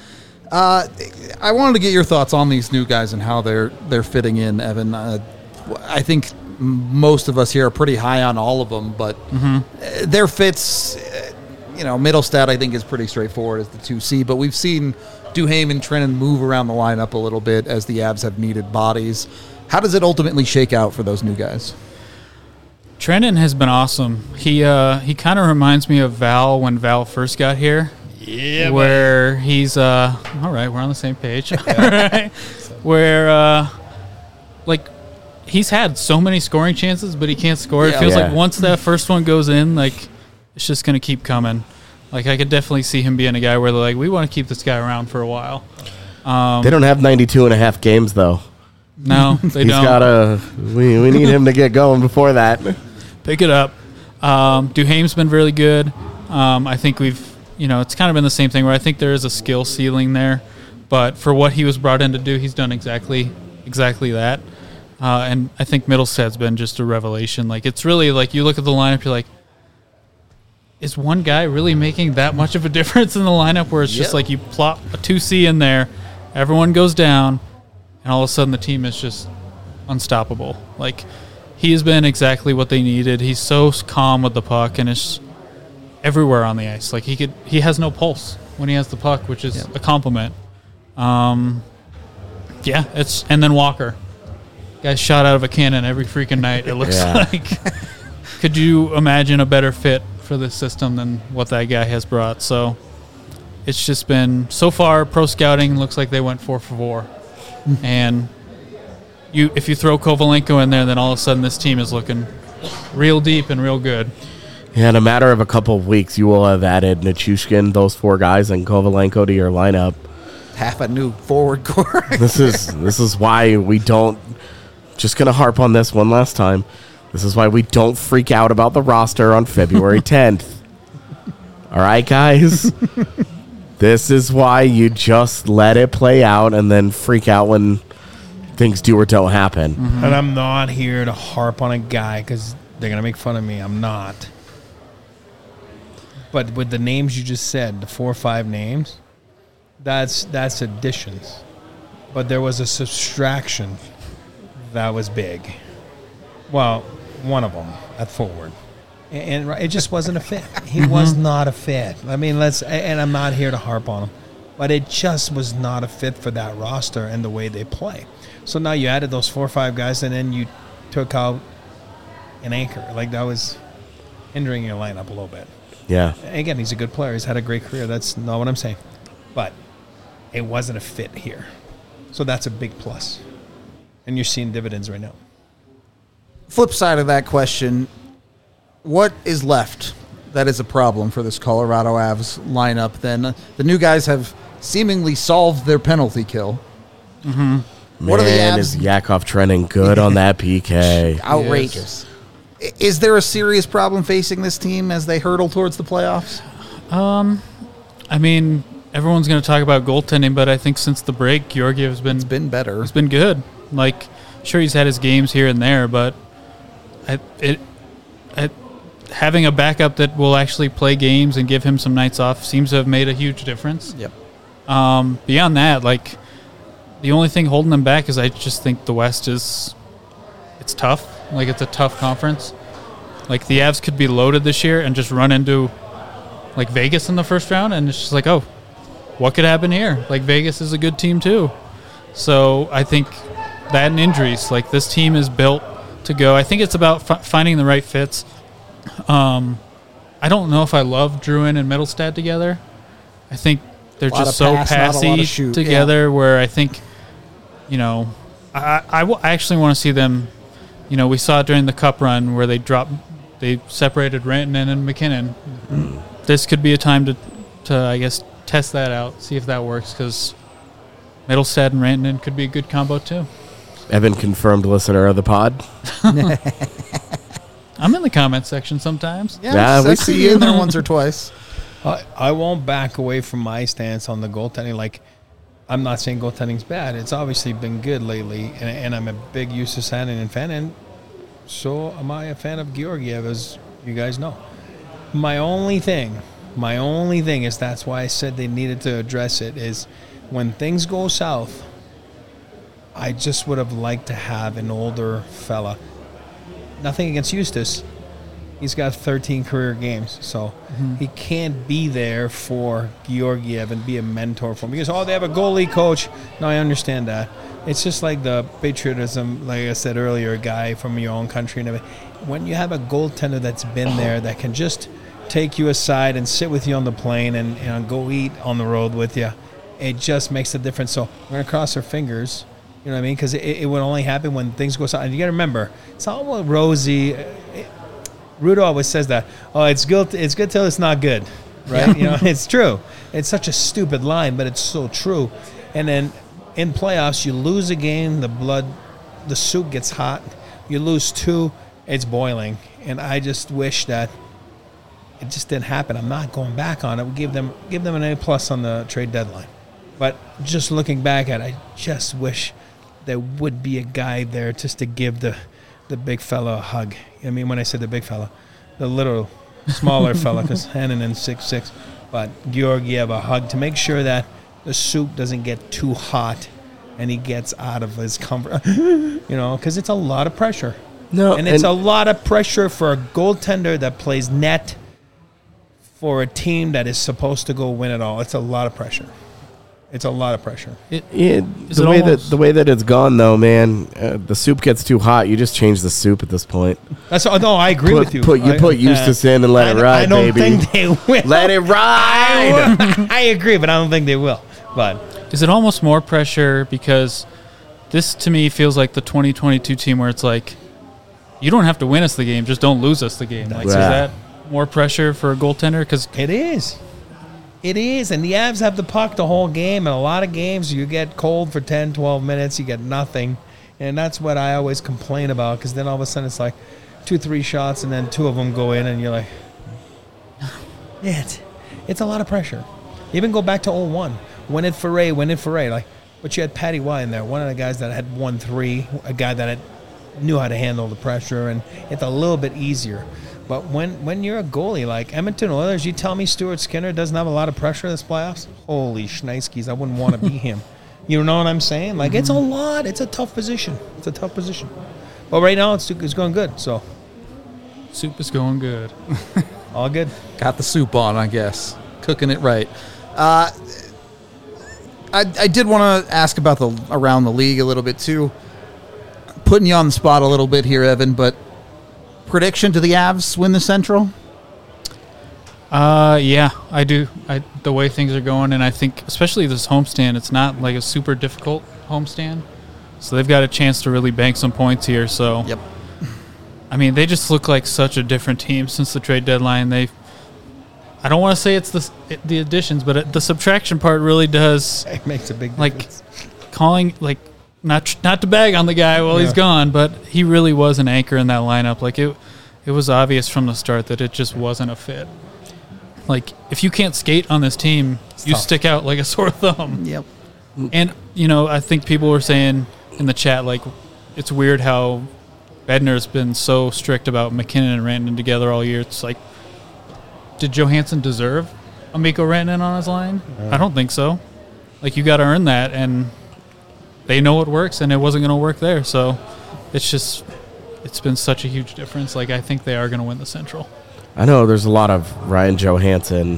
I wanted to get your thoughts on these new guys and how they're fitting in, Evan. I think most of us here are pretty high on all of them, but their fits, Middlestad I think is pretty straightforward as the 2C, but we've seen Duhaime and Trennan move around the lineup a little bit as the Avs have needed bodies. How does it ultimately shake out for those new guys? Trennan has been awesome. He kind of reminds me of Val when Val first got here. Yeah, Where he's all right, we're on the same page. All right. Where like he's had so many scoring chances, but he can't score. It Yeah. feels Yeah. like once that first one goes in, like it's just gonna keep coming. Like I could definitely see him being a guy where they're like, we want to keep this guy around for a while. They don't have 92 and a half games, though. No, they He's don't. got we need him to get going before that. Pick it up. Duhaime's been really good. I think it's kind of been the same thing where I think there is a skill ceiling there, but for what he was brought in to do, he's done exactly that. And I think Middlestad's been just a revelation. Like, it's really like you look at the lineup, you're like, is one guy really making that much of a difference in the lineup where it's just like you plop a 2C in there, everyone goes down, and all of a sudden the team is just unstoppable. Like, he has been exactly what they needed. He's so calm with the puck, and it's everywhere on the ice. Like, he has no pulse when he has the puck, which is a compliment. And then Walker. Guy's shot out of a cannon every freaking night, it looks like. Could you imagine a better fit for this system than what that guy has brought? So it's just been, so far, pro scouting looks like they went 4 for 4. And if you throw Kovalenko in there, then all of a sudden this team is looking real deep and real good. Yeah, in a matter of a couple of weeks, you will have added Nichushkin, those 4 guys, and Kovalenko to your lineup. Half a new forward core. This is why we don't. Just gonna harp on this one last time. This is why we don't freak out about the roster on February 10th. All right, guys. This is why you just let it play out and then freak out when things do or don't happen. And I'm not here to harp on a guy because they're going to make fun of me. I'm not. But with the names you just said, the 4 or 5 names, that's additions. But there was a subtraction that was big. Well, one of them at forward. And it just wasn't a fit. He was not a fit. I mean, and I'm not here to harp on him. But it just was not a fit for that roster and the way they play. So now you added those 4 or 5 guys, and then you took out an anchor. Like, that was hindering your lineup a little bit. Yeah. Again, he's a good player. He's had a great career. That's not what I'm saying. But it wasn't a fit here. So that's a big plus. And you're seeing dividends right now. Flip side of that question, what is left that is a problem for this Colorado Avs lineup. Then the new guys have seemingly solved their penalty kill. Man, What are the Avs? is Yakov trending good on that PK? Outrageous. Is there a serious problem facing this team as they hurtle towards the playoffs? I mean, everyone's going to talk about goaltending, but I think since the break, Georgiev's Been better. It's been good. Like, sure, he's had his games here and there, but having a backup that will actually play games and give him some nights off seems to have made a huge difference. Yep. Beyond that, like, the only thing holding them back is I just think the West it's tough. Like, it's a tough conference. Like, the Avs could be loaded this year and just run into, like, Vegas in the first round, and it's just like, oh, what could happen here? Like, Vegas is a good team too. So I think that and injuries, like, this team is built to go. I think it's about finding the right fits. I don't know if I love Drouin and Middlestad together. I think they're Lot just of so pass, not a lot of passy shoot, together where I think, you know, I actually want to see them, you know, we saw it during the Cup run where they separated Rantanen and McKinnon. This could be a time to I guess, test that out, see if that works, because Middlestad and Rantanen could be a good combo too. Evan, confirmed listener of the pod. I'm in the comment section sometimes. Yeah, we I've see seen you. in there once or twice. I won't back away from my stance on the goaltending. Like, I'm not saying goaltending's bad. It's obviously been good lately, and I'm a big Justus Hänninen fan, and so am I a fan of Georgiev, as you guys know. My only thing is, that's why I said they needed to address it, is when things go south, I just would have liked to have an older fella. Nothing against Justus. He's got 13 career games, so he can't be there for Georgiev and be a mentor for him. Because, they have a goalie coach. No, I understand that. It's just like the patriotism, like I said earlier, a guy from your own country and everything. When you have a goaltender that's been there, that can just take you aside and sit with you on the plane and go eat on the road with you, it just makes a difference. So we're going to cross our fingers, you know what I mean? Because it would only happen when things go south. And you got to remember, it's all rosy. Rudo always says that. Oh, it's good till it's not good, right? Yeah. You know, it's true. It's such a stupid line, but it's so true. And then in playoffs, you lose a game, the soup gets hot. You lose 2, it's boiling. And I just wish that it just didn't happen. I'm not going back on it. We give them an A+ on the trade deadline. But just looking back at it, I just wish there would be a guy there just to give the big fella a hug. I mean, when I said the big fella, the little smaller fella, because Hänninen 6'6", but Georgiev a hug to make sure that the soup doesn't get too hot and he gets out of his comfort, you know, because it's a lot of pressure. No, and it's a lot of pressure for a goaltender that plays net for a team that is supposed to go win it all. It's a lot of pressure. It's a lot of pressure. The way that it's gone, though, man, the soup gets too hot. You just change the soup at this point. No, I agree with you. Put Justus in and let it ride, I don't baby. think they will. Let it ride. I agree, but I don't think they will. But is it almost more pressure because this, to me, feels like the 2022 team where it's like, you don't have to win us the game, just don't lose us the game. Like, is that more pressure for a goaltender? Because it is. It is, and the Avs have the puck the whole game, and a lot of games you get cold for 10, 12 minutes, you get nothing, and that's what I always complain about, because then all of a sudden it's like 2-3 shots, and then 2 of them go in, and you're like, it's a lot of pressure. Even go back to 0-1, win it for Ray, like, but you had Patty Y in there, one of the guys that had 1-3, a guy that knew how to handle the pressure, and it's a little bit easier. But when you're a goalie, like Edmonton Oilers, you tell me Stuart Skinner doesn't have a lot of pressure this playoffs? Holy shnikes, I wouldn't want to be him. You know what I'm saying? Like, it's a lot. It's a tough position. But right now, it's going good, so. soup is going good. All good. Got the soup on, I guess. Cooking it right. I did want to ask about around the league a little bit, too. Putting you on the spot a little bit here, Evan, but prediction to the Avs win the Central? Yeah, I do. The way things are going, and I think especially this homestand, it's not like a super difficult homestand, so they've got a chance to really bank some points here. So, yep. I mean, they just look like such a different team since the trade deadline. They I don't want to say it's the additions, but the subtraction part really does. It makes a big Like difference. calling, like not to bag on the guy while he's gone, but he really was an anchor in that lineup. Like it was obvious from the start that it just wasn't a fit. Like if you can't skate on this team, you tough. stick out like a sore thumb. Yep. And I think people were saying in the chat, like, it's weird how Bednar's been so strict about McKinnon and Rantanen together all year. It's like, did Johansson deserve a Mikko Rantanen on his line? I don't think so. Like, you got to earn that, and they know it works, and it wasn't going to work there. So it's been such a huge difference. Like, I think they are going to win the Central. I know there's a lot of Ryan Johansson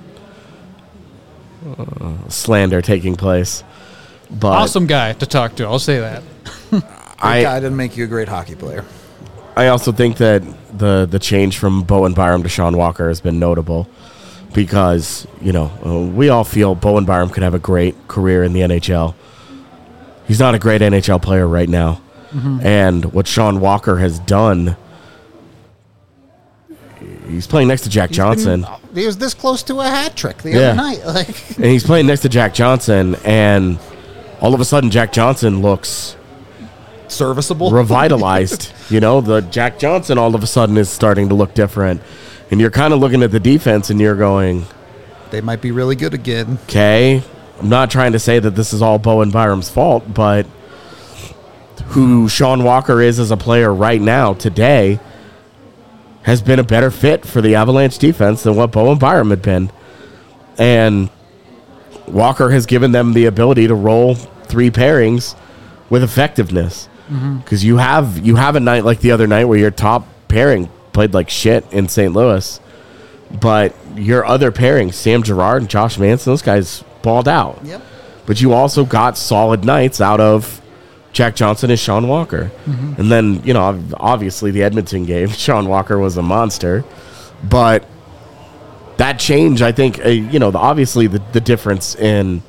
slander taking place. But Awesome guy to talk to. I'll say that. That guy didn't make you a great hockey player. I also think that the change from Bowen Byram to Sean Walker has been notable because, we all feel Bowen Byram could have a great career in the NHL. He's not a great NHL player right now. Mm-hmm. And what Sean Walker has done, he's playing next to Jack Johnson. He was this close to a hat trick the other night. And he's playing next to Jack Johnson, and all of a sudden Jack Johnson looks serviceable, revitalized. The Jack Johnson all of a sudden is starting to look different, and you're kind of looking at the defense and you're going, they might be really good again. Okay, I'm not trying to say that this is all Bowen Byram's fault, but who Sean Walker is as a player right now today has been a better fit for the Avalanche defense than what Bowen Byram had been, and Walker has given them the ability to roll 3 pairings with effectiveness. Because you have a night like the other night where your top pairing played like shit in St. Louis, but your other pairings, Sam Girard and Josh Manson, those guys balled out. Yep. But you also got solid nights out of Jack Johnson and Sean Walker. And then, obviously the Edmonton game, Sean Walker was a monster. But that change, I think, obviously the difference in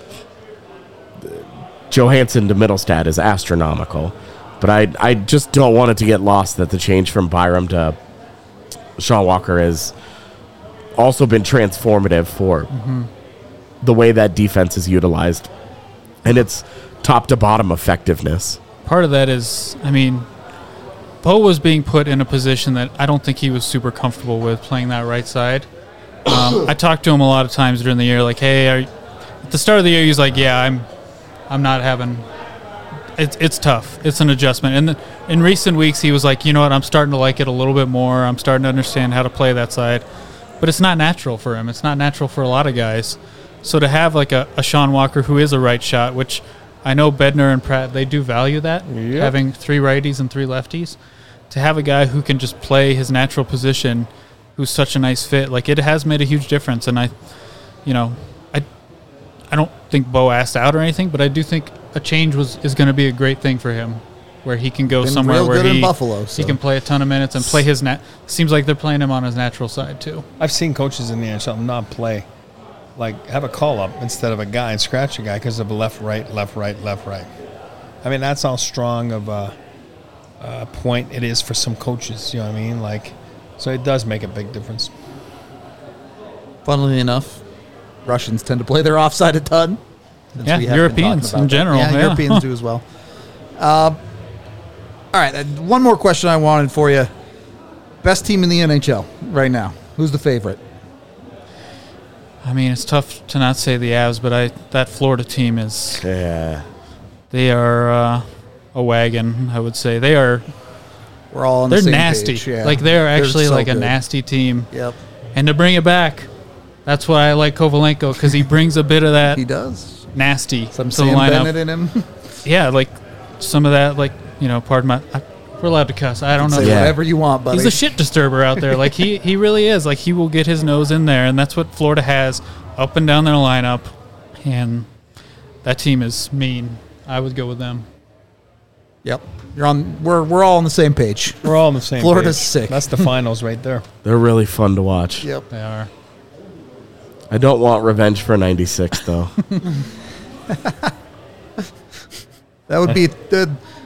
Johansson to Middlestad is astronomical. But I just don't want it to get lost that the change from Byram to Sean Walker has also been transformative for the way that defense is utilized. And it's top to bottom effectiveness. Part of that is, Bo was being put in a position that I don't think he was super comfortable with playing that right side. I talked to him a lot of times during the year, like, hey, at the start of the year, he's like, yeah, I'm not having. It's tough. It's an adjustment. And in recent weeks, he was like, you know what, I'm starting to like it a little bit more. I'm starting to understand how to play that side. But it's not natural for him. It's not natural for a lot of guys. So to have like a Sean Walker who is a right shot, which I know Bednar and Pratt, they do value that, having 3 righties and 3 lefties. To have a guy who can just play his natural position, who's such a nice fit, like, it has made a huge difference. And I don't think Bo asked out or anything, but I do think a change is going to be a great thing for him, where he can go somewhere real where good in Buffalo, he can play a ton of minutes and play his seems like they're playing him on his natural side too. I've seen coaches in the NHL not play, like have a call up instead of a guy and scratch a guy because of left, right, left, right, left, right. That's how strong of a point it is for some coaches. You know what I mean? Like, so it does make a big difference. Funnily enough, Russians tend to play their offside a ton. Yeah, Europeans in general. Yeah, Europeans do as well. All right, one more question I wanted for you. Best team in the NHL right now. Who's the favorite? It's tough to not say the Avs, but that Florida team is. Yeah. They are a wagon, I would say. They are. We're all on the same nasty. page. Yeah. Like, they're actually so like a good. nasty team. Yep. And to bring it back, that's why I like Kovalenko, because he brings a bit of that. He does. Nasty Some to Sam the lineup. Bennett in him. Yeah, like some of that, like, pardon my. We're allowed to cuss. I don't know. Say whatever you want, buddy. He's a shit disturber out there. Like, he really is. Like, he will get his nose in there, and that's what Florida has up and down their lineup. And that team is mean. I would go with them. Yep. You're on. We're all on the same page. We're all on the same Florida's page. sick. That's the finals right there. They're really fun to watch. Yep. They are. I don't want revenge for 96, though. That would be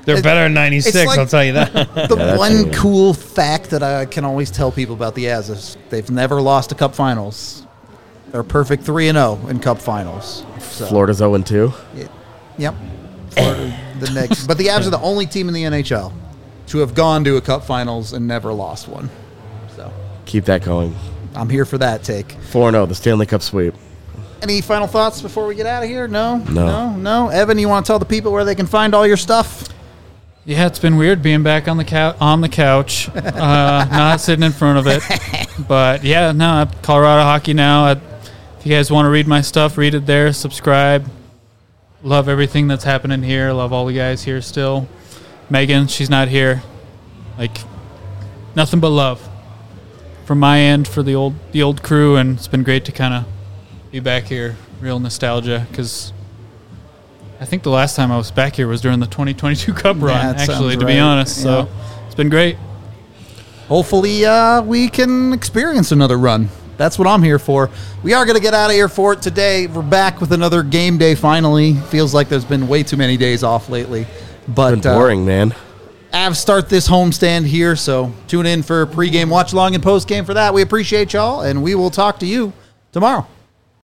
They're better than 96, it's like- I'll tell you that. The that's one true. cool fact that I can always tell people about the Avs is they've never lost a Cup Finals. They're perfect 3-0 in Cup Finals. So, Florida's 0-2. Yep. Florida, the next, but the Avs are the only team in the NHL to have gone to a Cup Finals and never lost one. So Keep that going. I'm here for that take. 4-0, the Stanley Cup sweep. Any final thoughts before we get out of here? No. No. Evan, you want to tell the people where they can find all your stuff? Yeah, it's been weird being back on the couch, not sitting in front of it. But yeah, no, Colorado Hockey Now. If you guys want to read my stuff, read it there. Subscribe. Love everything that's happening here. Love all the guys here still. Megan, she's not here. Like, nothing but love from my end for the old crew, and it's been great to kind of be back here. Real nostalgia, because I think the last time I was back here was during the 2022 Cup run, that actually, sounds to be right. honest. So it's been great. Hopefully, we can experience another run. That's what I'm here for. We are going to get out of here for it today. We're back with another game day finally. Feels like there's been way too many days off lately. But Been boring, man. Avs start this homestand here, so tune in for pregame watch along and postgame for that. We appreciate y'all, and we will talk to you tomorrow.